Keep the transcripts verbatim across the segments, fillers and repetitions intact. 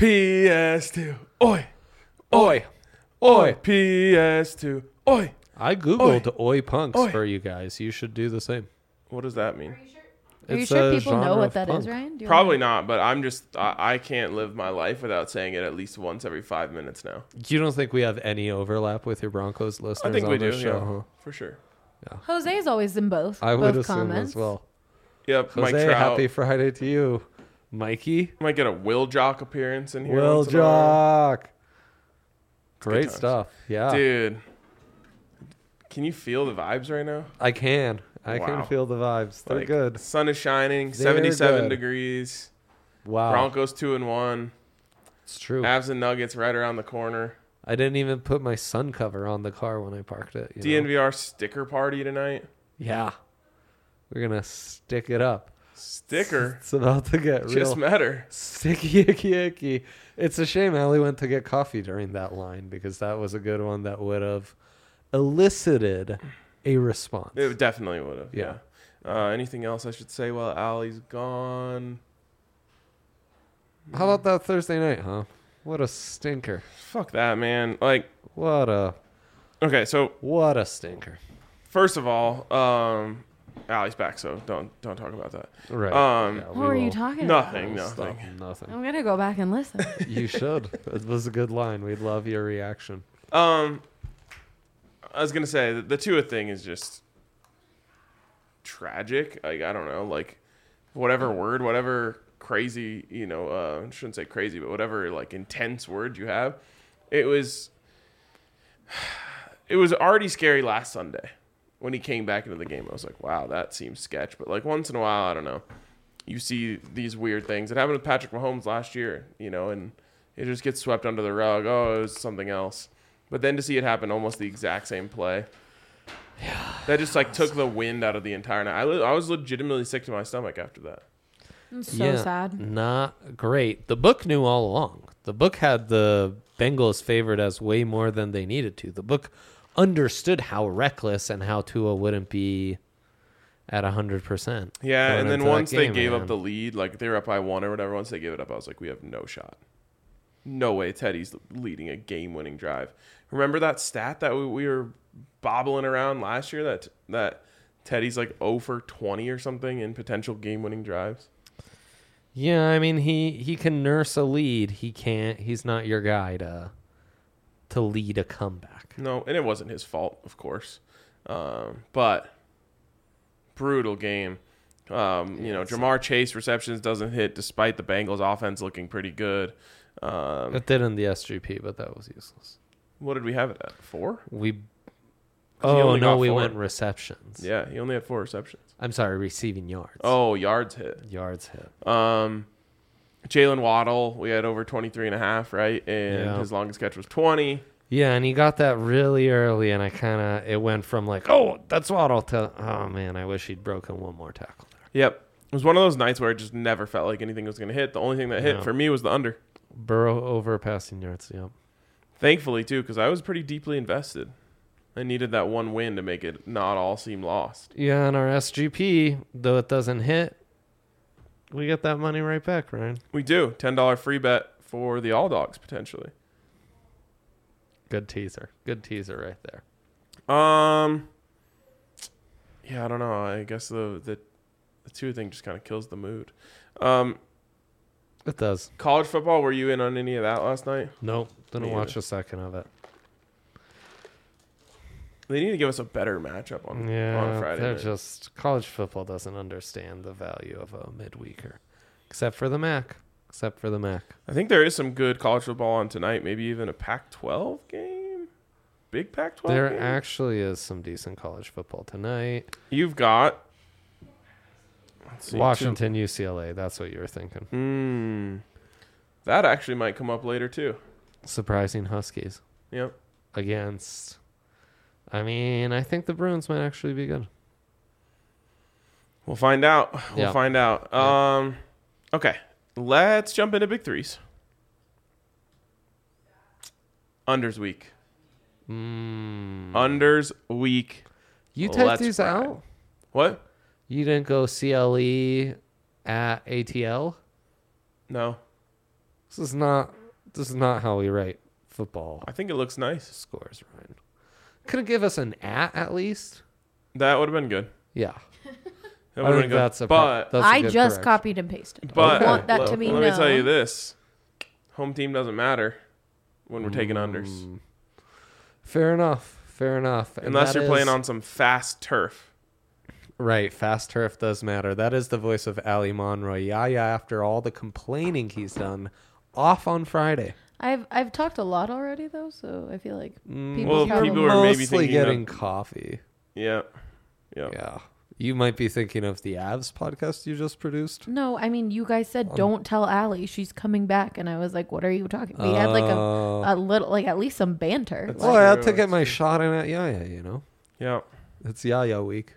P S two. Oi. Oi. Oi. P S two. Oi. I googled oi, punks Oi. for you guys. You should do the same. What does that mean? Are you It's sure a people know genre what of that is, punk. Ryan? Do you Probably wanna- not, but I'm just, I, I can't live my life without saying it at least once every five minutes now. You don't think we have any overlap with your Broncos listeners I think on we do, this show, yeah, huh? for sure. Jose's always in both. I would both assume comments. as well. Yep, Mike Jose, Trout. happy Friday to you. Mikey? Might get a Will Jock appearance in here. Will once in a while. Jock. Great times. stuff. Yeah. Dude, can you feel the vibes right now? I can. I Wow. can feel the vibes. They're Like, good. Sun is shining, They're seventy-seven good. degrees. Wow. Broncos two and one. It's true. Avs and Nuggets right around the corner. I didn't even put my sun cover on the car when I parked it. You know? D N V R sticker party tonight. Yeah. We're going to stick it up. Sticker. It's about to get real Just met her. sticky, icky, icky. It's a shame Allie went to get coffee during that line because that was a good one that would have elicited a response. It definitely would have. Yeah. Uh, anything else I should say while Allie's gone? How about that Thursday night, huh? What a stinker. Fuck that, man. Like, What a okay, so what a stinker. first of all, um, Allie's back, so don't don't talk about that. Right. Um, Yeah, we What were you will talking about? Nothing, stop. nothing. Nothing. I'm gonna go back and listen. You should. It was a good line. We'd love your reaction. Um, I was gonna say the, the Tua thing is just tragic. Like I don't know, like whatever word, whatever crazy, you know, uh, I shouldn't say crazy, but whatever like intense word you have, it was. It was already scary last Sunday when he came back into the game. I was like, wow, that seems sketch. But like once in a while, I don't know, you see these weird things. It happened with Patrick Mahomes last year, you know, and it just gets swept under the rug. Oh, it was something else. But then to see it happen almost the exact same play, yeah, that just like took the wind out of the entire night. I, li- I was legitimately sick to my stomach after that. It's so sad. Not great. The book knew all along. The book had the Bengals favored as way more than they needed to. The book understood how reckless and how Tua wouldn't be at one hundred percent. Yeah, going and then into that once they game, gave man. up the lead, like they were up by one or whatever, once they gave it up, I was like, we have no shot. No way Teddy's leading a game-winning drive. Remember that stat that we, we were bobbling around last year, that that Teddy's like zero for twenty or something in potential game-winning drives? Yeah, I mean he he can nurse a lead. He can't. He's not your guy to to lead a comeback. No, and it wasn't his fault, of course. Um, but brutal game. Um, you know, Jamar Chase receptions doesn't hit despite the Bengals offense looking pretty good. Um, It did in the S G P, but that was useless. what did we have it at? Four? We he oh only no, got we four. went receptions. Yeah, he only had four receptions. I'm sorry, receiving yards. Oh, yards hit. yards hit. Um, Jalen Waddle, we had over twenty-three and a half, right? And Yeah. his longest catch was twenty. Yeah, and he got that really early, and I kind of it went from like, oh, that's Waddle to oh man, I wish he'd broken one more tackle there. Yep. It was one of those nights where it just never felt like anything was going to hit. The only thing that hit Yeah. for me was the under. Burrow over passing yards. Yep. Thankfully, too, because I was pretty deeply invested. I needed that one win to make it not all seem lost. Yeah, and our S G P, though it doesn't hit, we get that money right back, Ryan. We do. ten dollars free bet for the All Dogs, potentially. Good teaser. Good teaser right there. Um, yeah, I don't know. I guess the the, the two thing just kind of kills the mood. Um, It does. college football, were you in on any of that last night? Nope. Didn't Me watch either. a second of it. They need to give us a better matchup on, Yeah, on Friday they're night. just college football doesn't understand the value of a midweeker, except for the M A C. Except for the M A C. I think there is some good college football on tonight. Maybe even a Pac twelve game? Big Pac twelve There game? actually is some decent college football tonight. You've got... let's see, Washington, U C L A. That's what you were thinking. Hmm. That actually might come up later, too. Surprising Huskies Yep. against. I mean, I think the Bruins might actually be good. We'll find out. We'll Yeah. find out. Yeah. Um, okay. Let's jump into big threes. Unders week. Mm. Unders week. You typed Let's these ride. out? What? You didn't go C L E at A T L? No. This is not. This is not how we write football I think it looks nice. scores, Ryan. Couldn't give us an at at least. That would have been good. Yeah, That I would have think been good. that's a. but that's a I good just correction. copied and pasted. but I want that let, to be let known. me tell you this: home team doesn't matter when we're taking unders, Mm, Fair enough. Fair enough. And unless that you're playing is- on some fast turf. Right, fast turf does matter. That is the voice of Ali Monroy. Yaya, after all the complaining he's done, off on Friday. I've I've talked a lot already though, so I feel like Mm, Well, probably- people are maybe mostly thinking getting of- coffee. Yeah, yeah. Yeah. You might be thinking of the Avs podcast you just produced. no. I mean, you guys said Um, don't tell Allie she's coming back, and I was like, what are you talking? We had like a, Uh, a little, like at least some banter. That's well, I had true, to get that's my true. shot in at Yaya, you know? Yeah. It's Yaya week.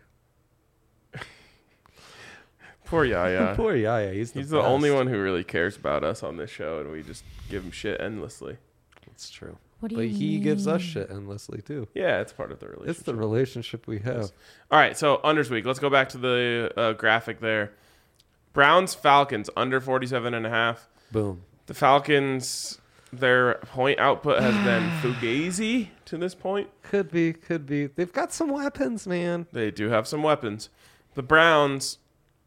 Poor Yaya. Poor Yaya. He's the, He's the only best. one who really cares about us on this show, and we just give him shit endlessly. It's true. What do But you he gives us mean? shit endlessly, too. Yeah, it's part of the relationship. It's the relationship we have. All right, so unders week. Let's go back to the uh, graphic there. Browns Falcons under forty-seven and a half. Boom. The Falcons, their point output has been fugazi to this point. Could be, could be. They've got some weapons, man. They do have some weapons. The Browns,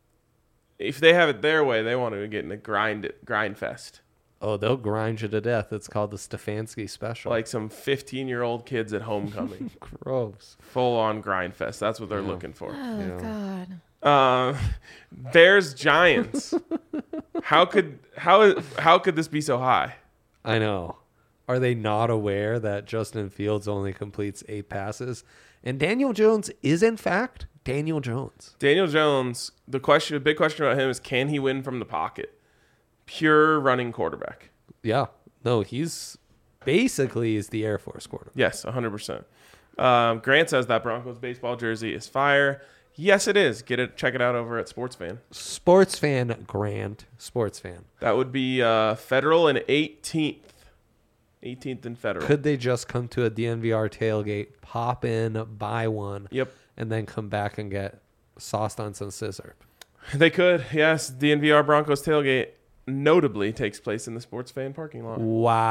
if they have it their way, they want to get in a grind grind fest. Oh, they'll grind you to death. It's called the Stefanski special. Like some fifteen-year-old kids at homecoming. gross. Full on grind fest. That's what they're Yeah. looking for. Oh Yeah. God. Uh, Bears Giants. how could how how could this be so high? I know. Are they not aware that Justin Fields only completes eight passes? And Daniel Jones is, in fact, Daniel Jones. Daniel Jones. The question, the big question about him is, can he win from the pocket? Pure running quarterback. Yeah. No, he's basically is the Air Force quarterback. Yes, one hundred percent. Um, Grant says that Broncos baseball jersey is fire. Yes, it is. Get it. Check it out over at Sports Fan. Sports fan Grant. Sports fan. That would be uh, Federal and eighteenth. eighteenth and Federal. Could they just come to a D N V R tailgate, pop in, buy one, Yep. and then come back and get sauced on some scissor? They could. Yes, D N V R Broncos tailgate notably takes place in the Sports Fan parking lot.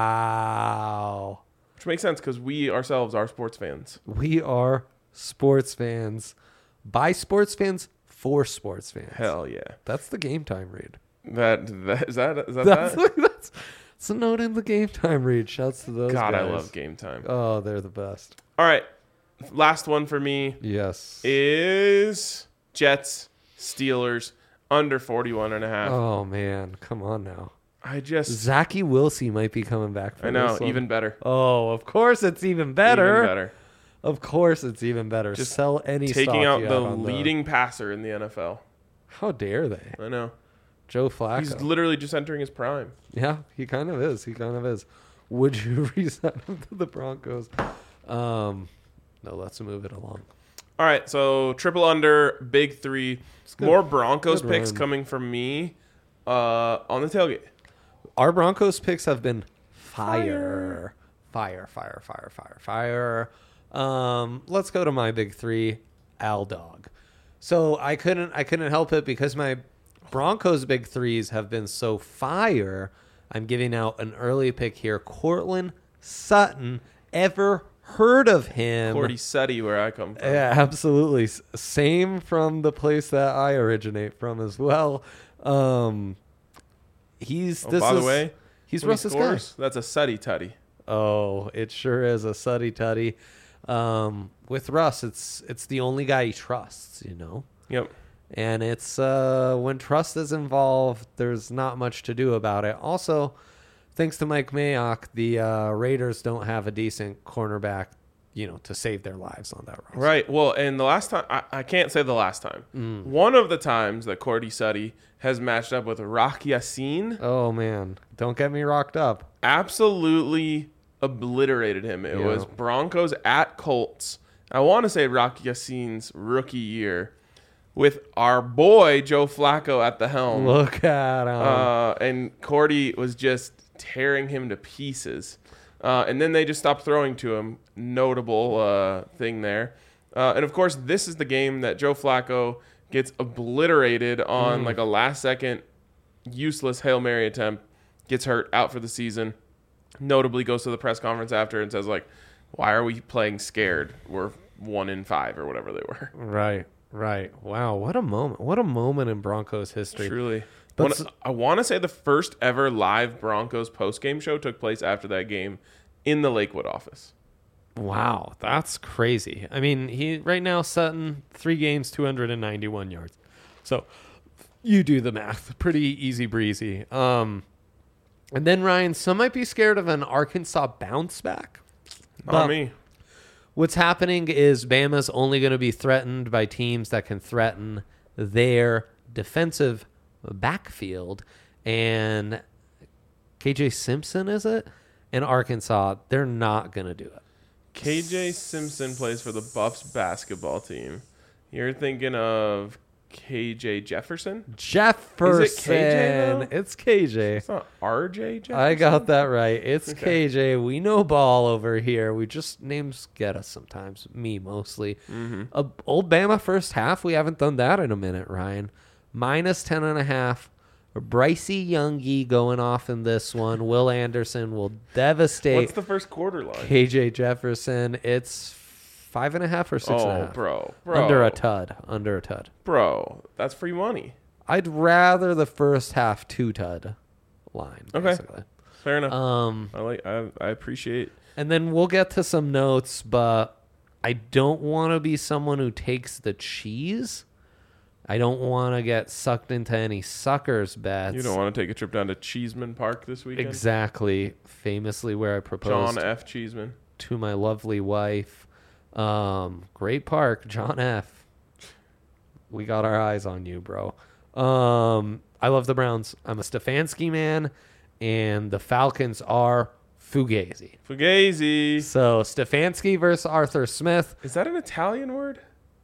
Wow. Which makes sense because we ourselves are sports fans. We are sports fans. By sports fans, for sports fans. Hell yeah. That's the game time read. That, that is that is that, That's, that? that's, that's a note in the game time read. Shouts to those God, I guys. love game time. Oh, they're the best. All right. Last one for me Yes. is Jets Steelers under forty-one and a half. Oh, man. Come on now. I just Zachy Wilsey might be coming back for I know, this one. even better. Oh, of course it's even better. Even better. Of course it's even better. Just Sell any Taking stock out you the have on leading passer in the N F L. How dare they? I know. Joe Flacco. He's literally just entering his prime. Yeah, he kind of is. He kind of is. Would you resign him to the Broncos? Um, no, let's move it along. All right, so triple under, big three. good. More Broncos Good picks run. coming from me uh, on the tailgate. Our Broncos picks have been fire. Fire, fire, fire, fire, fire. Um, let's go to my big three, Al Dog. So I couldn't I couldn't help it because my Broncos big threes have been so fire. I'm giving out an early pick here. Cortland Sutton. Ever heard of him? Cordy Sutty, where I come from. Yeah, absolutely. S- Same from the place that I originate from as well. Um, he's Oh, this by is, the way, he's when he Russ's guy. scores, that's a Sutty Tutty. Oh, it sure is a suddy tutty. Um, with Russ, it's it's the only guy he trusts, you know. Yep. And it's uh, when trust is involved, there's not much to do about it. Also, thanks to Mike Mayock, the uh, Raiders don't have a decent cornerback, you know, to save their lives on that roster. Right. Well, and the last time, I, I can't say the last time. Mm. One of the times that Cordy Sutty has matched up with Rock Yassin, Oh man, don't get me rocked up. absolutely obliterated him. It Yeah. was Broncos at Colts. I want to say Rock Yassin's rookie year with our boy Joe Flacco at the helm. Look at him. Uh, and Cordy was just tearing him to pieces. Uh, and then they just stopped throwing to him. Notable uh, thing there. Uh, and, of course, this is the game that Joe Flacco gets obliterated on Mm. like a last-second useless Hail Mary attempt gets hurt, out for the season. Notably goes to the press conference after and says, like, why are we playing scared? We're one in five or whatever they were. Right, right. Wow, what a moment. What a moment in Broncos history. Truly. That's- One- I want to say the first ever live Broncos post-game show took place after that game in the Lakewood office. Wow, that's crazy. I mean, he right now Sutton, three games, two hundred ninety-one yards. So you do the math. Pretty easy breezy. Um, and then, Ryan, some might be scared of an Arkansas bounce back. Not But me. What's happening is Bama's only going to be threatened by teams that can threaten their defensive backfield. And K J Simpson, is it? In Arkansas, they're not going to do it. K J Simpson plays for the Buffs basketball team. You're thinking of K J Jefferson? Jefferson. Is it K J, though? It's K J. It's not R J Jefferson? I got that right. It's Okay. K J. We know ball over here. We just names get us sometimes. Me mostly. Mm-hmm. Uh, old Bama first half. We haven't done that in a minute, Ryan. Minus ten and a half. Brycey Youngie going off in this one. Will Anderson will devastate What's the first quarter line? K J Jefferson. It's five and a half or six and a Oh, half. bro. Bro. Under a tud. Under a tud. Bro, that's free money. I'd rather the first half two tud line. Okay. Basically. Fair enough. Um, I like. I, I appreciate. and then we'll get to some notes, but I don't want to be someone who takes the cheese. I don't want to get sucked into any suckers bets. You don't want to take a trip down to Cheeseman Park this weekend? Exactly. Famously where I proposed John F. Cheeseman. to my lovely wife. Um, great park, John F. We got our eyes on you, bro. Um, I love the Browns. I'm a Stefanski man, and the Falcons are Fugazi. Fugazi. So Stefanski versus Arthur Smith. Is that an Italian word?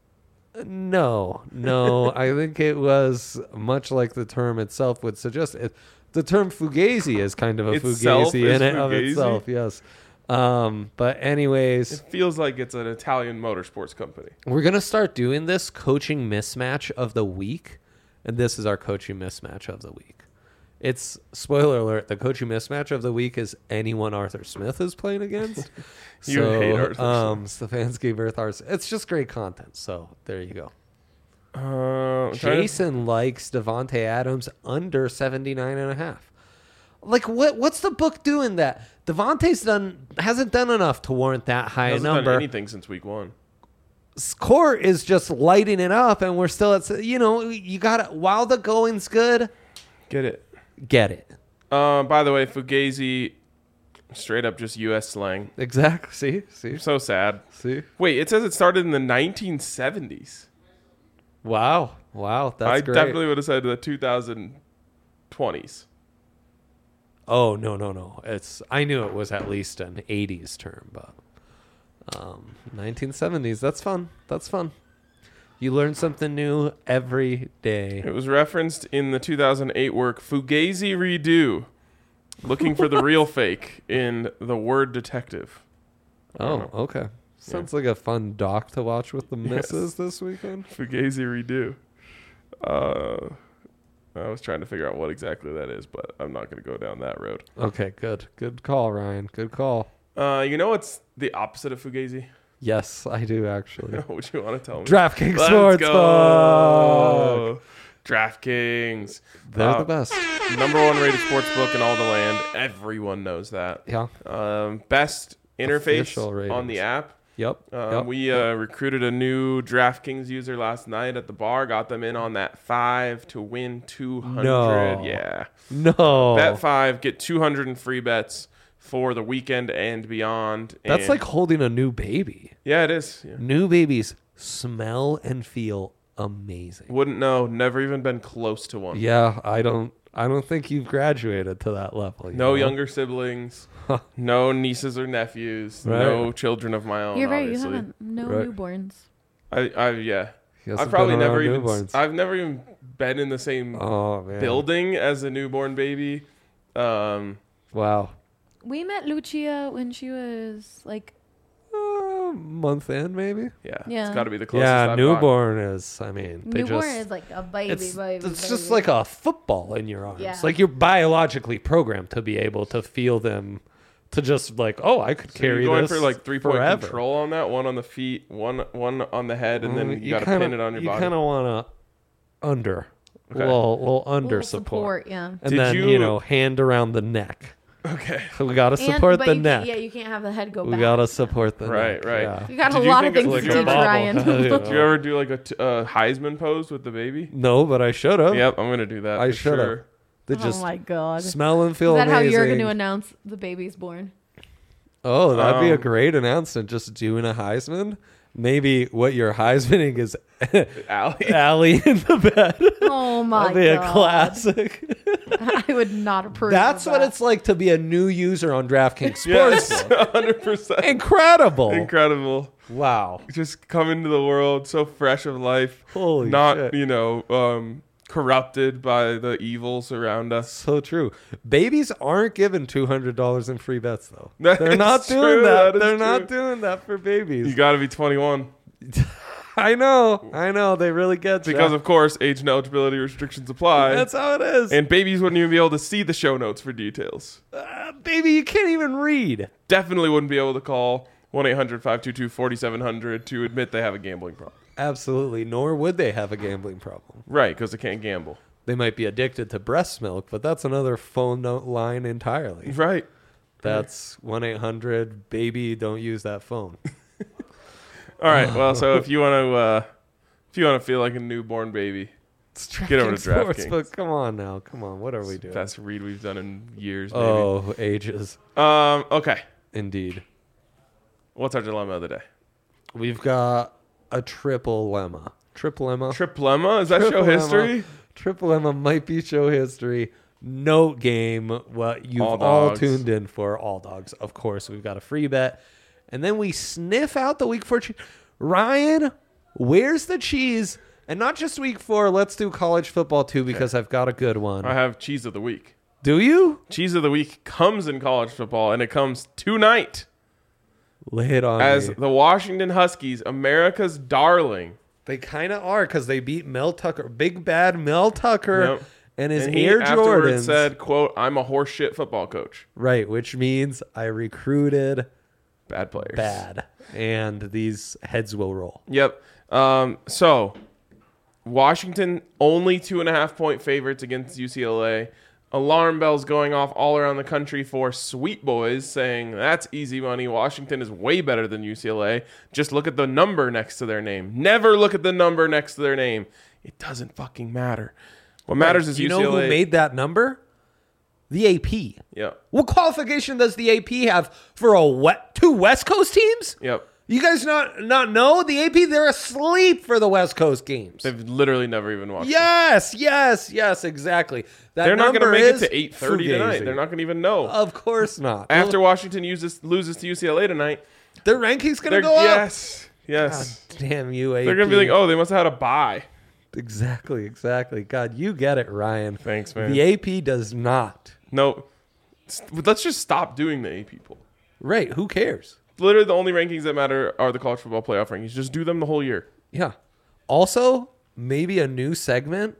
No, no. I think it was much like the term itself would suggest. It, the term Fugazi is kind of a Itself Fugazi is in it of Fugazi? itself. Yes. Um, but anyways, It feels like it's an Italian motorsports company. we're going to start doing this coaching mismatch of the week. And this is our coaching mismatch of the week. It's, spoiler alert, the coaching mismatch of the week is anyone Arthur Smith is playing against. You so, hate Arthur um, Stefanski versus Arthur. It's just great content. So there you go. Uh, I'm trying to- Jason likes Devontae Adams under seventy-nine and a half. Like, what? what's the book doing that? Devontae's done, hasn't done enough to warrant that high a hasn't done number. anything since week one. Court is just lighting it up, and we're still at, you know, you got to, while the going's good, Get it. get it. Uh, by the way, Fugazi, straight up just U S slang. Exactly. See? See? So sad. See? Wait, it says it started in the nineteen seventies. Wow. Wow. That's I great. definitely would have said the two thousand twenties. Oh, no, no, no. It's, I knew it was at least an eighties term, but um, nineteen seventies. That's fun. That's fun. You learn something new every day. It was referenced in the two thousand eight work Fugazi Redo, looking for the real fake in The Word Detective. I don't Oh, okay. Sounds like a fun doc to watch with the missus this weekend. Fugazi Redo. Uh, I was trying to figure out what exactly that is, but I'm not going to go down that road. Okay, good. Good call, Ryan. Good call. Uh, you know what's the opposite of Fugazi? Yes, I do actually. What you want to tell me? DraftKings Let's Sportsbook. go. DraftKings. They're Uh, the best. Number one rated sportsbook in all the land. Everyone knows that. Yeah. Um, best interface Official on ratings. the app. Yep. Um, yep. we uh, recruited a new DraftKings user last night at the bar. Got them in on that five to win two hundred. No. Yeah. no. Bet five, get two hundred in free bets for the weekend and beyond. That's And- like holding a new baby. yeah, it is. Yeah. New babies smell and feel amazing. Wouldn't know. Never even been close to one. Yeah, I don't I don't think you've graduated to that level. you No know? younger siblings. No nieces or nephews. Right. No children of my own. You're right. Obviously. You haven't. No Right. newborns. I, I, yeah. He hasn't I've probably been never around even. newborns. I've never even been in the same Oh man. building as a newborn baby. Um, Wow. We met Lucia when she was like Uh, month in, maybe. Yeah, Yeah. it's got to be the closest. Yeah, I've newborn is. I mean, they Newborn just, is like a baby, it's, baby. it's baby. just like a football in your arms. Yeah. Like you're biologically programmed to be able to feel them, to just like, oh, I could So carry you're going this for like three point forever. control on that. One on the feet, one one on the head, and then Mm, you, got to kinda- pin it on your you body. kind of want to under, Okay. little, little under Little support. support, yeah. And Did then, you, you- know, hand around the neck. Okay. We got to And- support but the you neck. Can't, yeah, you can't have the head go we back. got to support the Right, neck. right. Yeah. You got Did a you lot think of it's things like to a teach bobble? Ryan. Yeah. Did you ever do like a t- uh, Heisman pose with the baby? No, but I should have. Yep, I'm gonna do that. I for should have. sure. They Oh just my god! Is smell and feel that how amazing. you're going to announce the baby's born? Oh, that'd be a Um, great announcement. Just doing a Heisman. Maybe what you're Heismaning is Allie. Allie in the bed. Oh my That'd be god! a classic. I would not approve. That's of what that. it's like to be a new user on DraftKings Yes, Sportsbook. one hundred percent. Incredible. Incredible. Wow. Just come into the world so fresh of life, Holy not shit. you know um, corrupted by the evils around us. So true. Babies aren't given two hundred dollars in free bets, though. That They're is not doing true, that. that is They're not true. doing that for babies. You got to be twenty-one I know. I know. They really get because ya. of course age and eligibility restrictions apply. That's how it is. and babies wouldn't even be able to see the show notes for details. Uh, baby, you can't even read. Definitely wouldn't be able to call one eight hundred five two two four seven zero zero to admit they have a gambling problem. Absolutely. Nor would they have a gambling problem. Right, because they can't gamble. They might be addicted to breast milk, but that's another phone note line entirely. Right. That's one eight hundred baby, don't use that phone. All right. Well, so if you want to, uh, if you want to feel like a newborn baby, get over to DraftKings. But come on now. Come on. What are we doing? Best read we've done in years. Maybe. Oh, ages. Um. Okay. Indeed. What's our dilemma of the day? We've got a triple lemma. Triple lemma. Triplema? Is that show Triple history? Lemma. Triple lemma might be show history. Note game. What you've All all, dogs. tuned in for. All dogs. Of course, we've got a free bet. And then we sniff out the week four cheese. Ryan, where's the cheese? And not just week four. Let's do college football too because I've got a good one. I have cheese of the week. Do you? Cheese of the week comes in college football, and it comes tonight Lay it on as me. the Washington Huskies, America's darling. They kind of are because they beat Mel Tucker, big bad Mel Tucker, Yep. and his And he Air afterwards Jordans. said, "quote I'm a horseshit football coach. Right, which means I recruited Bad players. bad, and these heads will roll. Yep. Um, so Washington only two and a half point favorites against U C L A. Alarm bells going off all around the country for Sweet Boys saying that's easy money. Washington is way better than U C L A. Just look at the number next to their name. Never look at the number next to their name. It doesn't fucking matter. What matters is you U C L A. know who made that number? The A P. Yep. What qualification does the A P have for a wet, two West Coast teams? Yep. You guys not not know the A P? They're asleep for the West Coast games. They've literally never even watched. it. Yes, yes, yes, exactly. That They're not going to number make it is to eight thirty tonight. fugazi. They're not going to even know. Of course not. After Washington uses loses to U C L A tonight, their ranking's going they're to go up. yes, yes. God damn you, A P. They're going to be like, oh, they must have had a bye. Exactly, exactly. God, you get it, Ryan. Thanks, man. The A P does not. No, st- let's just stop doing the A P poll. Right, who cares? Literally, the only rankings that matter are the college football playoff rankings. Just do them the whole year. Yeah. Also, maybe a new segment,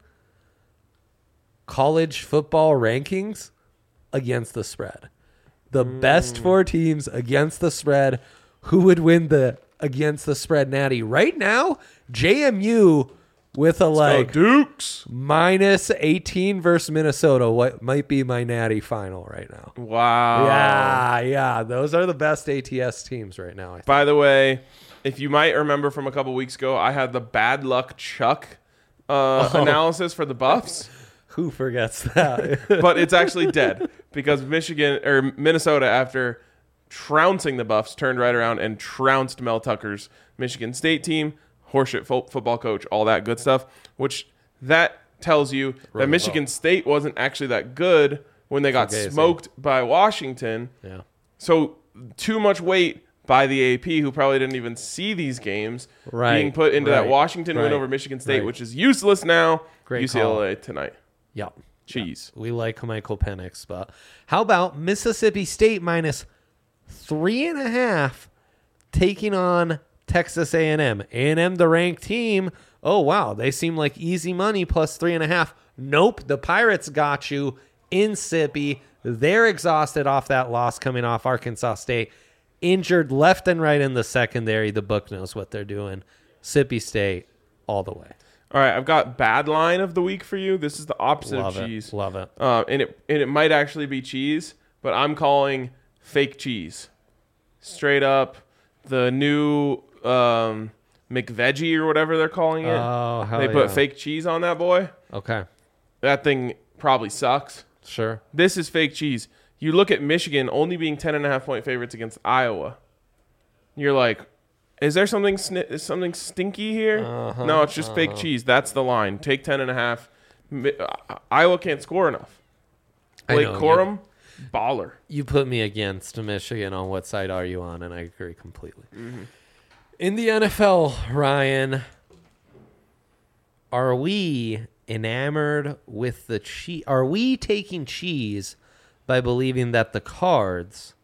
college football rankings against the spread. The Mm. best four teams against the spread. Who would win the against the spread natty? Right now, J M U with a like Dukes. minus eighteen versus Minnesota. What might be my natty final right now? Wow. Yeah, yeah. Those are the best A T S teams right now. I think. By the way, if you might remember from a couple weeks ago, I had the bad luck Chuck uh, Oh. analysis for the Buffs. Who forgets that? But it's actually dead because Michigan or Minnesota, after trouncing the Buffs, turned right around and trounced Mel Tucker's Michigan State team, horseshit fo- football coach, all that good stuff. Which that tells you that Really Michigan well. State wasn't actually that good when they got Fugazi. smoked by Washington. Yeah. So too much weight by the A P, who probably didn't even see these games, Right, being put into that right, Washington win right, over Michigan State, right. which is useless now. Great U C L A tonight. Yeah. Cheese. We like Michael Penix, but how about Mississippi State minus three and a half taking on Texas A and M. A and M, the ranked team. Oh, wow. They seem like easy money plus three and a half. Nope. The Pirates got you in Sippy. They're exhausted off that loss coming off Arkansas State. Injured left and right in the secondary. The book knows what they're doing. Sippy State all the way. All right, I've got bad line of the week for you. This is the opposite Love of it. cheese. Love it. Uh, and it and it might actually be cheese, but I'm calling fake cheese. Straight up, the new um, McVeggie or whatever they're calling it. Oh, hell they put yeah. fake cheese on that boy. Okay. That thing probably sucks. Sure. This is fake cheese. You look at Michigan only being ten and a half point favorites against Iowa. You're like, is there something sni- is something stinky here? Uh-huh, no, it's just uh-huh. fake cheese. That's the line. Take ten and a half. Mi- uh, Iowa can't score enough. I Blake know, Corum, baller. You put me against Michigan. On what side are you on? And I agree completely. In the N F L, Ryan, are we enamored with the cheese? Are we taking cheese by believing that the Cards,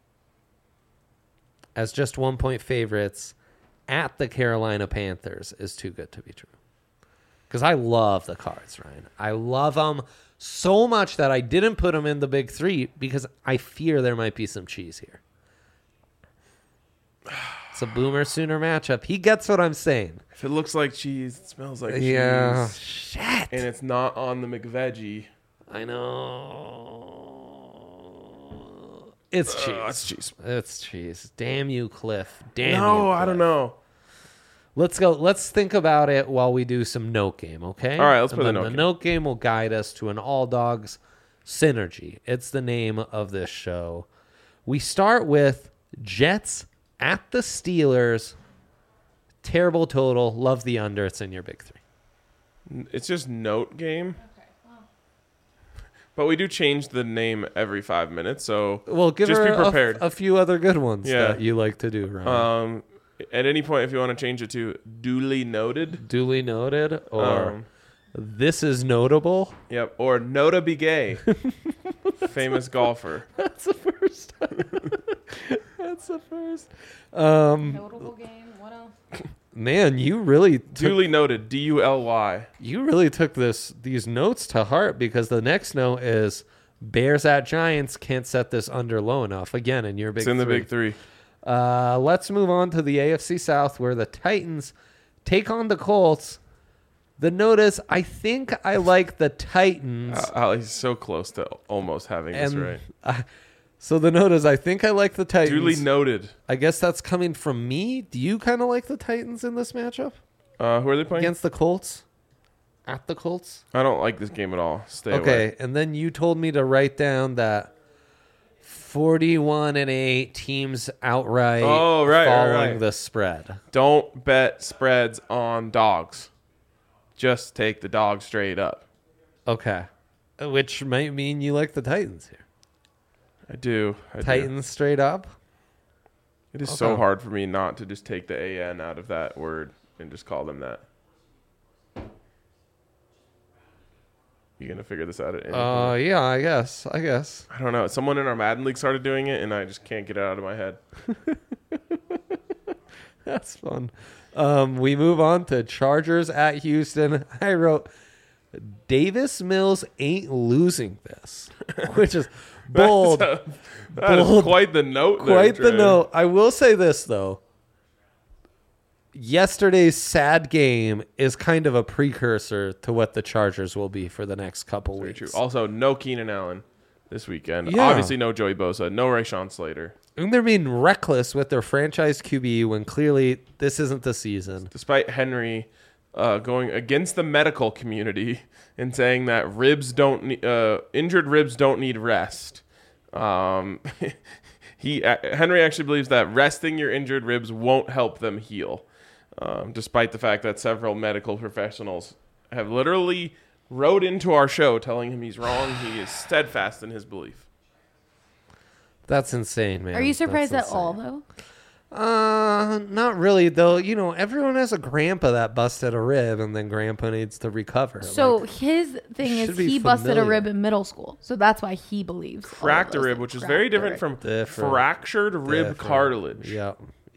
as just one point favorites at the Carolina Panthers, is too good to be true? Because I love the Cards, Ryan. I love them so much that I didn't put them in the big three because I fear there might be some cheese here. It's a Boomer Sooner matchup. He gets what I'm saying. If it looks like cheese, it smells like Yeah. cheese. Shit. And it's not on the McVeggie. I know. It's cheese. Uh, it's cheese. It's cheese. Damn you, Cliff. Damn you. No, I Cliff. don't know. Let's go. Let's think about it while we do some note game, okay? All right, let's And play the then note the game. note game will guide us to an all dogs synergy. It's the name of this show. We start with Jets at the Steelers. Terrible total. Love the under. It's in your big three. It's just note game. But we do change the name every five minutes, so Well, give just her be a- prepared. A, few other good ones Yeah. that you like to do, Ryan. Um, at any point, if you want to change it to duly noted, Duly noted, or um, this is notable. yep, or Nota Be Gay, famous golfer. That's the first. That's the first. Um, Notable game. What else? man, you really took, Duly noted, D U L Y. you really took this these notes to heart because the next note is Bears at Giants can't set this under low enough. Again, in your big It's in the three. big three. Uh, let's move on to the A F C South where the Titans take on the Colts. The notice, I think I like the Titans. Uh, Ali's so close to almost having this and right. I- so the notice, I think I like the Titans. Duly noted. I guess that's coming from me. Do you kind of like the Titans in this matchup Uh, who are they playing? against the Colts? At the Colts? I don't like this game at all. Stay Okay, away. and then you told me to write down that forty-one and eight teams outright Oh, right, right, following right. the spread. Don't bet spreads on dogs. Just take the dog straight up. Okay. Which might mean you like the Titans here. I do. I do. Titans straight up? It is so Okay. hard for me not to just take the A N out of that word and just call them that. You gonna figure this out at any Uh, point? yeah, I guess. I guess. I don't know. Someone in our Madden League started doing it, and I just can't get it out of my head. That's fun. Um, we move on to Chargers at Houston. I wrote, Davis Mills ain't losing this, which is bold. That's a- that is Bold. quite the note. there, Quite the Trey. note. I will say this, though. Yesterday's sad game is kind of a precursor to what the Chargers will be for the next couple Very weeks. true. Also, no Keenan Allen this weekend. Yeah. Obviously, no Joey Bosa. No Rayshawn Slater. And they're being reckless with their franchise Q B when clearly this isn't the season. Despite Henry uh, going against the medical community and saying that ribs don't ne- uh, injured ribs don't need rest. Um, he uh, Henry actually believes that resting your injured ribs won't help them heal, um, despite the fact that several medical professionals have literally wrote into our show telling him he's wrong. He is steadfast in his belief. That's insane, man. Are you surprised That's at all, insane. though? Uh, not really, though. You know, everyone has a grandpa that busted a rib, and then grandpa needs to recover. So Like, his thing should is be he busted a familiar. rib in middle school, so that's why he believes all of Cracked a those rib, things. which is Cracked very a different rib. from Different. fractured rib different. cartilage. Yep.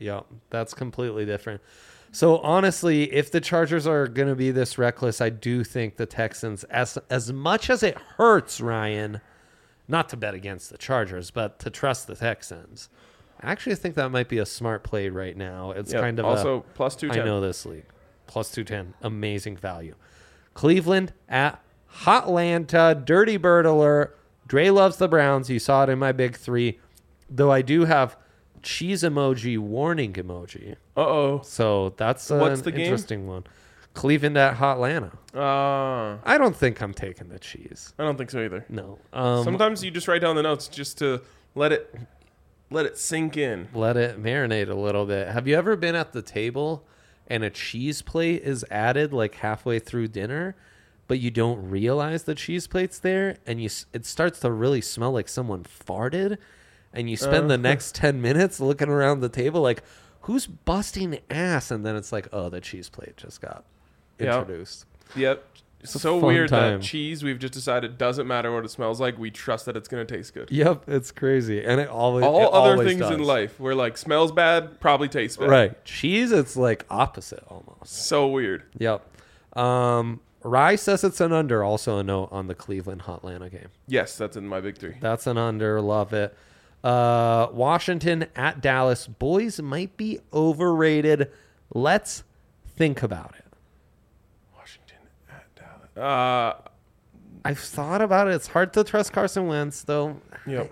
Yep, that's completely different. So honestly, if the Chargers are going to be this reckless, I do think the Texans, as as much as it hurts, Ryan, not to bet against the Chargers, but to trust the Texans. I actually think that might be a smart play right now. It's Yep. kind of also a, plus two ten. I know this league. Plus two ten. Amazing value. Cleveland at Hotlanta. Dirty Bird alert. Dre loves the Browns. You saw it in my big three. Though I do have cheese emoji, warning emoji. Uh-oh. So that's uh, What's an the game? interesting one. Cleveland at Hotlanta. Uh, I don't think I'm taking the cheese. I don't think so either. No. Um, Sometimes you just write down the notes just to let it let it sink in. Let it marinate a little bit. Have you ever been at the table and a cheese plate is added like halfway through dinner, but you don't realize the cheese plate's there, and you s- it starts to really smell like someone farted, and you spend Uh. the next ten minutes looking around the table like, who's busting ass? And then it's like, oh, the cheese plate just got Yep. introduced. Yep. a So fun weird time. that cheese we've just decided doesn't matter what it smells like. We trust that it's going to taste good. Yep, it's crazy. And it always All it other always things in does. life where like smells bad, probably tastes bad. Right. Cheese, it's like opposite almost. So weird. Yep. Um, Rye says it's an under. Also a note on the Cleveland Hotlanta game. Yes, that's in my big three. That's an under. Love it. Uh, Washington at Dallas. Boys might be overrated. Let's think about it. Washington at Dallas. Uh, I've thought about it. It's hard to trust Carson Wentz, though. yep.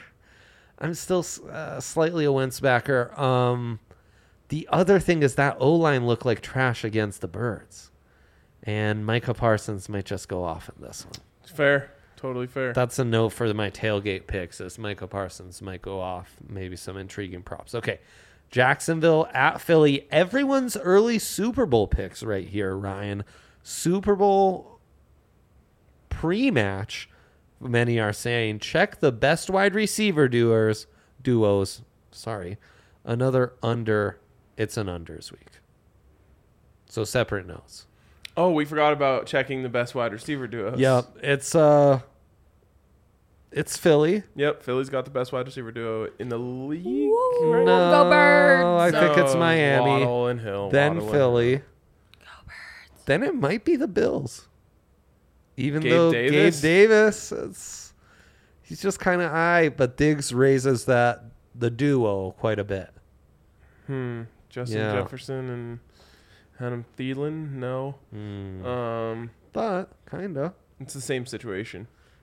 I'm still uh, slightly a Wentz backer. Um, the other thing is that O-line looked like trash against the Birds. And Micah Parsons might just go off in this one. Fair. Totally fair. That's a note for my tailgate picks. Is Micah Parsons might go off. Maybe some intriguing props. Okay. Jacksonville at Philly. Everyone's early Super Bowl picks right here, Ryan. Super Bowl pre-match. Many are saying, check the best wide receiver duos. Duos. Sorry. Another under. It's an unders week. So separate notes. Oh, we forgot about checking the best wide receiver duos. Yep. It's uh it's Philly. Yep. Philly's got the best wide receiver duo in the league. Woo, right? No, go Birds. I think it's No, Miami. Waddle and Hill. Then Waddle and Philly. Hill. Then it might be the Bills. Even Gabe though Davis? Gabe Davis, it's, he's just kind of high, but Diggs raises that the duo quite a bit. Hmm. Justin Yeah. Jefferson and Adam Thielen. No. Mm. Um. But kind of. It's the same situation.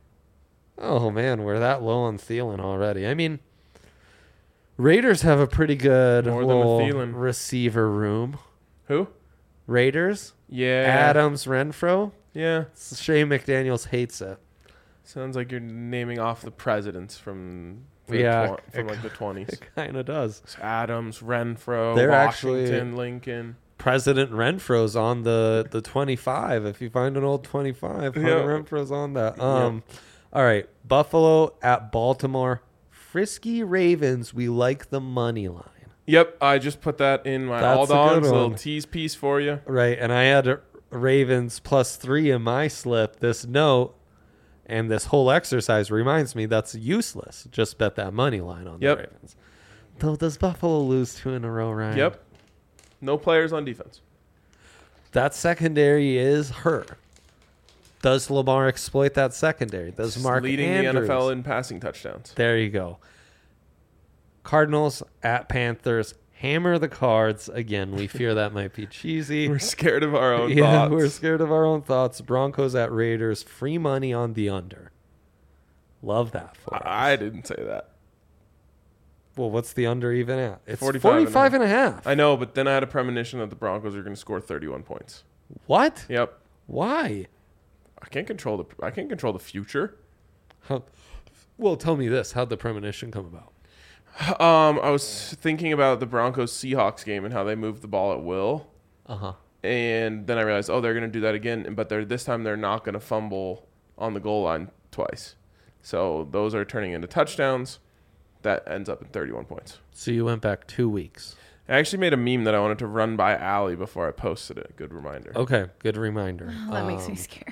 Oh man, we're that low on Thielen already. I mean, Raiders have a pretty good More than a little Thielen. receiver room. Who? Raiders, Yeah. Adams, Renfro. Yeah. It's a shame McDaniels hates it. Sounds like you're naming off the presidents from the Yeah, tw- from like the twenties. It kind of does. Adams, Renfro, They're Washington, actually- Lincoln. President Renfro's on the, the twenty-five. If you find an old twenty-five, Hunter Yeah. Renfro's on that. Um, All right. Buffalo at Baltimore. Frisky Ravens. We like the money line. Yep, I just put that in my That's all a good dogs little one. tease piece for you. Right. And I had a Ravens plus three in my slip. This note and this whole exercise reminds me that's useless. Just bet that money line on Yep. the Ravens. Though, does Buffalo lose two in a row, Ryan? Yep. No players on defense. That secondary is hurt. Does Lamar exploit that secondary? Does Mark leading Andrews? the N F L in passing touchdowns. There you go. Cardinals at Panthers. Hammer the Cards. Again, we fear that might be cheesy. We're scared of our own yeah, thoughts. we're scared of our own thoughts. Broncos at Raiders. Free money on the under. Love that for us. I, I didn't say that. Well, what's the under even at? It's forty-five and a forty-five and a half. I know, but then I had a premonition that the Broncos are going to score thirty-one points. What? Yep. Why? I can't control the I can't control the future. How, well, tell me this. How'd the premonition come about? Um, I was thinking about the Broncos Seahawks game and how they moved the ball at will, Uh-huh. and then I realized, oh, they're going to do that again, but they're this time they're not going to fumble on the goal line twice. So those are turning into touchdowns. That ends up in thirty-one points. So you went back two weeks. I actually made a meme that I wanted to run by Allie before I posted it. Good reminder. Okay, good reminder. That makes me Um, scared.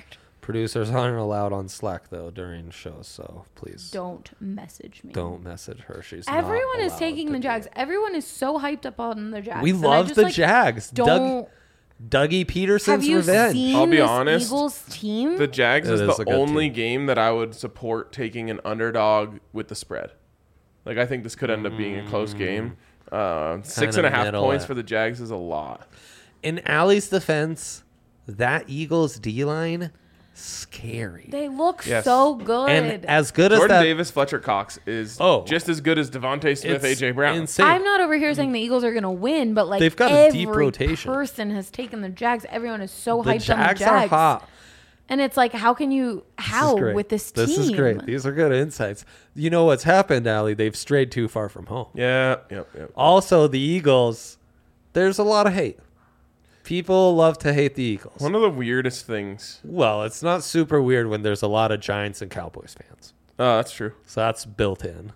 Producers aren't allowed on Slack though during shows, so please Don't message me. don't message her. She's not Everyone is allowed taking to the do Jags. it. Everyone is so hyped up on the Jags. We and I love just, the like, Jags. Doug, Don't Dougie Peterson's have you revenge. seen I'll be this honest, Eagles team? The Jags It is is a the good only team. game that I would support taking an underdog with the spread. Like, I think this could end up being a close game. Uh, six and a half middle points at- for the Jags is a lot. In Allie's defense, that Eagles D line, scary. they look Yes. so good. And as good as Jordan that, Davis, Fletcher Cox is Oh. just as good as Devontae Smith, it's A J Brown. insane. I'm not over here saying the Eagles are going to win, but like They've got a every deep rotation. person has taken the Jags. Everyone is so the hyped Jags, on the are Jags. hot. And it's like, how can you, This is how great. with this team? This is great. These are good insights. You know what's happened, Allie? They've strayed too far from home. Yeah, yep, yep. Also, the Eagles, there's a lot of hate. People love to hate the Eagles. One of the weirdest things. Well, it's not super weird when there's a lot of Giants and Cowboys fans. Oh, that's true. So that's built in.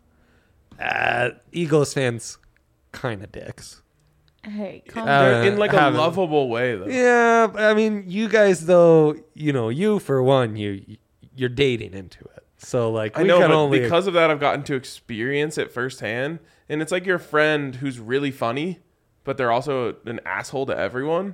Uh, Eagles fans, kind of dicks. Hey, calm Uh, They're in like a haven't- lovable way, though. Yeah, I mean, you guys though, you know, you for one, you you're dating into it. So like, I we know, can but only because of that, I've gotten to experience it firsthand. And it's like your friend who's really funny, but they're also an asshole to everyone.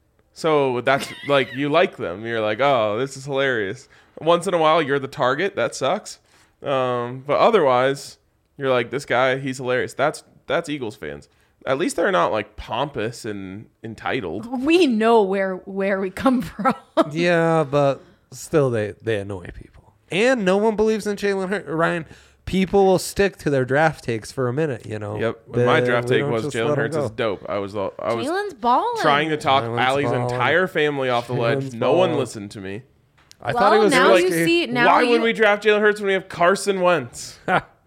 So that's like, you like them. You're like, oh, this is hilarious. Once in a while, you're the target. That sucks. Um, but otherwise, you're like, this guy, he's hilarious. That's that's Eagles fans. At least they're not like pompous and entitled. we know where where we come from. yeah, but still, they they annoy people, and no one believes in Jalen Hurts. Ryan, people will stick to their draft takes for a minute. You know. Yep. They- my draft we take don't was just Jalen let 'em Hurts go. is dope. I was I was Jalen's balling. trying to talk Jalen's Allie's balling. entire family off the ledge. Jalen's No one balling. listened to me. I Well, thought it was now like, you see. Now Why you, would we draft Jalen Hurts when we have Carson Wentz?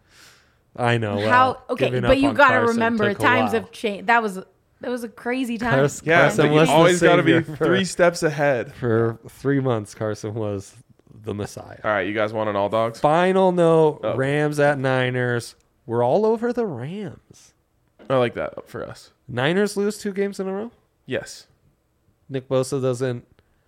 I know. Well, how? Okay, giving but up you on got to Carson remember, took a times while. have changed. That was that was a crazy time. Carson- Yeah, Carson but you was the always got to be savior for- three steps ahead. For three months, Carson was the Messiah. All right, you guys want an all dogs? Final note: Oh. Rams at Niners. We're all over the Rams. I like that for us. Niners lose two games in a row. Yes. Nick Bosa doesn't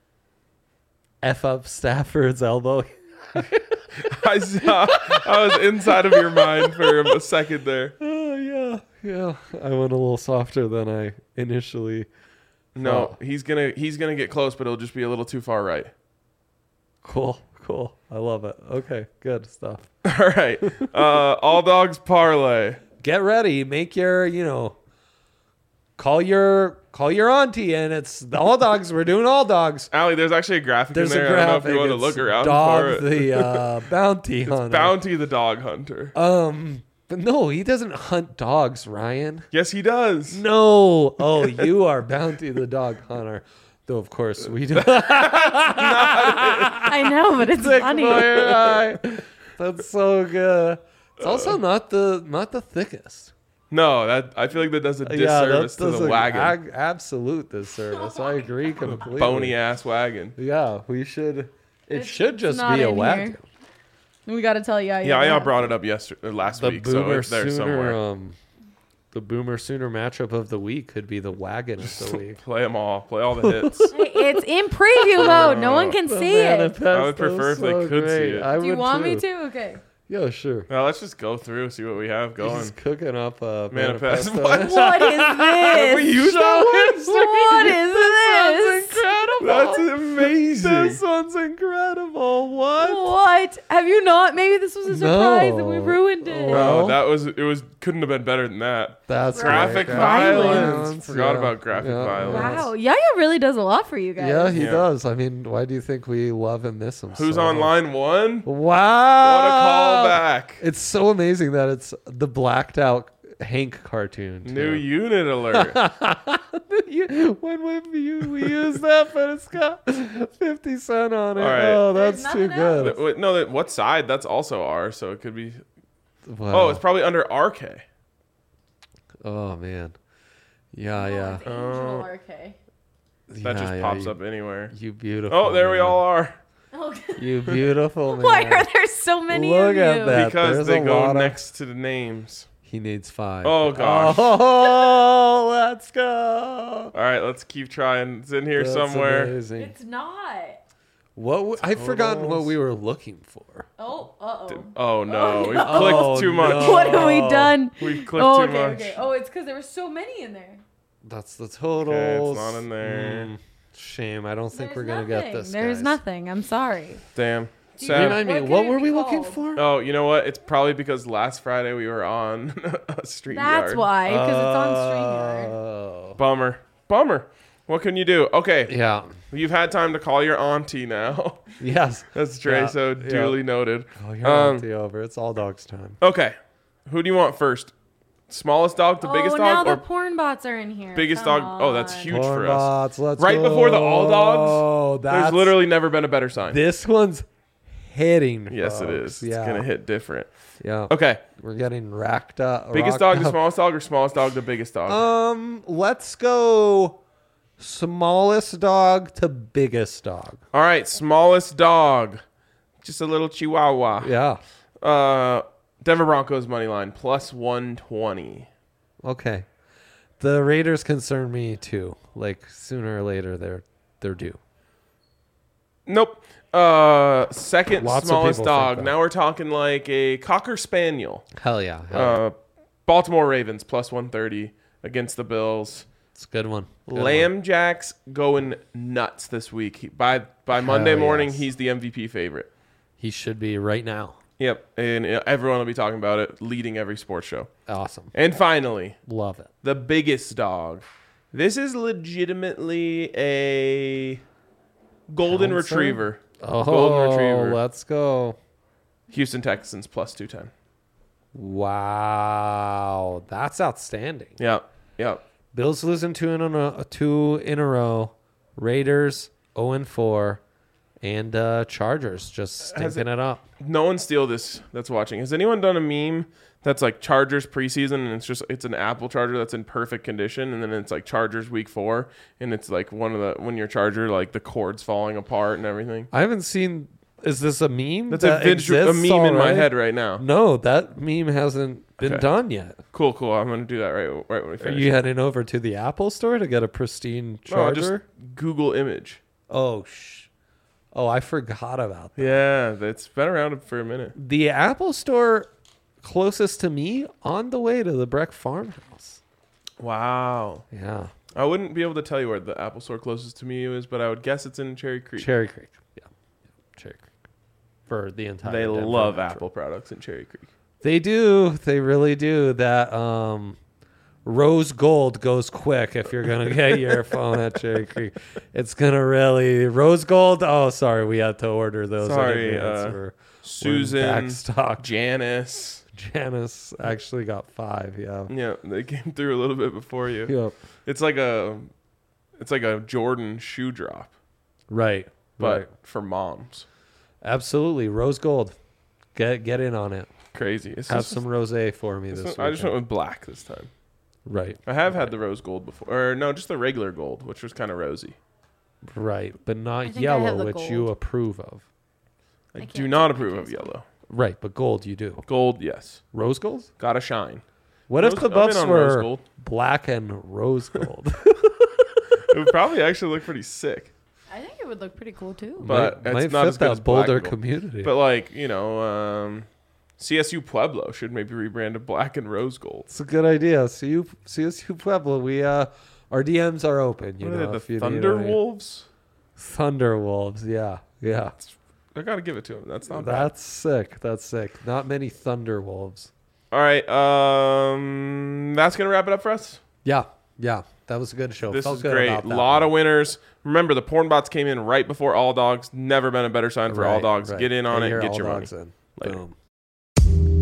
f up Stafford's elbow. I saw. I was inside of your mind for a second there. Oh yeah, yeah. I went a little softer than I initially. No, he's gonna he's gonna get close, but it'll just be a little too far right. Cool, cool. I love it. Okay, good stuff. All right, uh, all dogs parlay. Get ready. Make your, you know, call your call your auntie, and it's the all dogs. We're doing all dogs. Allie, there's actually a graphic There's in there. a graphic. I don't know if you want to It's look around Dog for it. the uh, bounty It's hunter. Bounty the dog hunter. Um, but no, he doesn't hunt dogs, Ryan. Yes, he does. No. Oh, you are Bounty the dog hunter. Though of course we do. I know, but it's Sick funny. boy, Ryan. That's so good. It's also not the not the thickest. No, that I feel like that does a Yeah, that disservice to does the a wagon. ag- absolute disservice. I agree completely. Bony ass wagon. Yeah, we should. It It's- should it's just not be a in wagon. here. We got to tell you. Yeah, I brought it up yesterday, or last The week, so boomer it's there sooner, somewhere. um, the boomer sooner matchup of the week could be the wagon of the week. Play them all. Play all the hits. It's in preview mode. No one can The see it. manifesto I would prefer is if they so could see great. it. I Do you would want too. me to? Okay. Yeah, sure. Now let's just go through, see what we have going. He's cooking up a Manifest. manifesto. What? What is Have we this? used that What is this? incredible. That's amazing. This one's incredible. What? What? Have you not? Maybe this was a surprise and we No. ruined it. Well- No, that was it. Was couldn't have been better than that. That's Graphic right. violence. Forgot yeah. about graphic Yeah. violence. Wow. Yaya really does a lot for you guys. Yeah, he Yeah. does. I mean, why do you think we love and miss him? Who's so on much? line one? Wow. What a callback! It's so amazing that it's the blacked out Hank cartoon. too. New unit alert. You- when we, we, we use that, but it's got fifty cent on it. All right. Oh, that's There's too nothing good. Th- wait, no, that what side? That's also R, so it could be. Wow. Oh, it's probably under R K. Oh, man. Yeah, yeah. It's Angel R K. That Yeah, just yeah, pops you, up anywhere. You beautiful. Oh, there we man. all are. You beautiful man. Why are there so many Look of at you? that. Because there's they a go lot of- next to the names. He needs five. Oh, gosh. Oh, let's go. All right, let's keep trying. It's in here That's somewhere. amazing. It's not. What w- I've forgotten what Totals. we were looking for. Oh, uh oh. Oh no, Oh, we no. clicked Oh, too much. no. What have we done? We clicked Oh, too okay, much. okay. Oh, it's because there were so many in there. That's the totals. Okay, it's not in there. Mm, shame. I don't think There's we're gonna nothing. get this. There's guys. nothing. I'm sorry. Damn. Do you Sad. Remind me, What could what it were be we looking called? for? Oh, you know what? It's probably because last Friday we were on a StreamYard. That's why, because it's on StreamYard. Oh. Bummer. Bummer. What can you do? Okay. Yeah. You've had time to call your auntie now. Yes. That's Trey, Yeah, so yeah. duly noted. Oh, you're Um, auntie over. It's all dogs time. Okay. Who do you want first? Smallest dog to Oh, biggest now dog the or porn bots are in here. biggest Come dog? Oh, that's on. huge for us. Bots, let's Right before the all dogs, Oh, that's There's literally never been a better sign. this one's hitting. Yes, it folks. is. Yeah. It's going to hit different. Yeah. Okay. We're getting racked up. Biggest rocked dog to up. smallest dog or smallest dog to biggest dog? Um, let's go smallest dog to biggest dog. All right. Smallest dog. Just a little chihuahua. Yeah. Uh, Denver Broncos money line plus one twenty. Okay. The Raiders concern me too. Like sooner or later they're they're due. Nope. Uh, second Lots of smallest people think dog. that. Now we're talking like a Cocker Spaniel. Hell yeah. Hell yeah. Uh, Baltimore Ravens plus one thirty against the Bills. It's a good one. Good one. Lamb Jack's going nuts this week. He, by by Monday Hell morning, yes. he's the M V P favorite. He should be right now. Yep, and uh, everyone will be talking about it, leading every sports show. Awesome. And finally, Love it. the biggest dog. This is legitimately a golden Pouncer? retriever. Oh, Golden retriever. let's go. Houston Texans plus two ten. Wow. That's outstanding. Yep, yep. Bills losing two in a row, two in a row. Raiders oh and four, and uh, Chargers just Has stinking it, up. No one steal this that's watching. Has anyone done a meme that's like Chargers preseason and it's just it's an Apple charger that's in perfect condition and then it's like Chargers week four and it's like one of the when your charger like the cord's falling apart and everything. I haven't seen. Is this a meme? That's that a visual, a exists meme in my already? head right now. No, that meme hasn't been Okay. done yet. Cool, cool. I'm gonna do that right right when we Are finish. you heading over to the Apple store to get a pristine No, I'll just charger? Google image. Oh, sh- oh, I forgot about that. Yeah, that's been around for a minute. The Apple store closest to me on the way to the Breck farmhouse. Wow. Yeah. I wouldn't be able to tell you where the Apple store closest to me is, but I would guess it's in Cherry Creek. Cherry Creek. Yeah. Cherry Creek. For the entire They Denver love Metro. Apple products in Cherry Creek. They do. They really do. That um, rose gold goes quick if you're going to get your phone at Cherry Creek. It's going to really. Rose gold? Oh, sorry. We had to order those. in Sorry, advance. uh, We're- we're in Susan, back stock. Janice. Janice actually got five. Yeah. Yeah, they came through a little bit before you. Yep. It's like a, it's like a Jordan shoe drop, Right. but right. for moms. Absolutely. Rose gold. Get get in on it. Crazy. It's Have just- some rosé for me it's this not- I just went weekend. with black this time. Right. I have had the rose gold before, or no, just the regular gold, which was kind of rosy. Right. But I not think I yellow, have the which you gold. approve of. I, I do can't not take approve of pictures. yellow. Right. But gold you do. Gold, yes. Rose gold? Gotta shine. What Rose- if the I'm in buffs on rose were gold. black and rose gold? It would probably actually look pretty sick. I think it would look pretty cool too. But might, it's might not fit as good that as black Boulder and gold. community. But like, you know, um, C S U Pueblo should maybe rebrand to black and rose gold. it's a good idea. See you, see us, you Pueblo. We uh, our D Ms are open. You What are know, they, if the you need any- Thunderwolves? Thunderwolves. Yeah, yeah. I gotta give it to him. That's not bad. That's sick. That's sick. Not many Thunderwolves. All right, um, that's gonna wrap it up for us. Yeah, yeah. That was a good show. This Felt is good great. about A that lot one. of winners. Remember, the porn bots came in right before All Dogs. Never been a better sign for All Right, Dogs. right. Get in on Get it. your Get All your money. Dogs in. Later. Boom.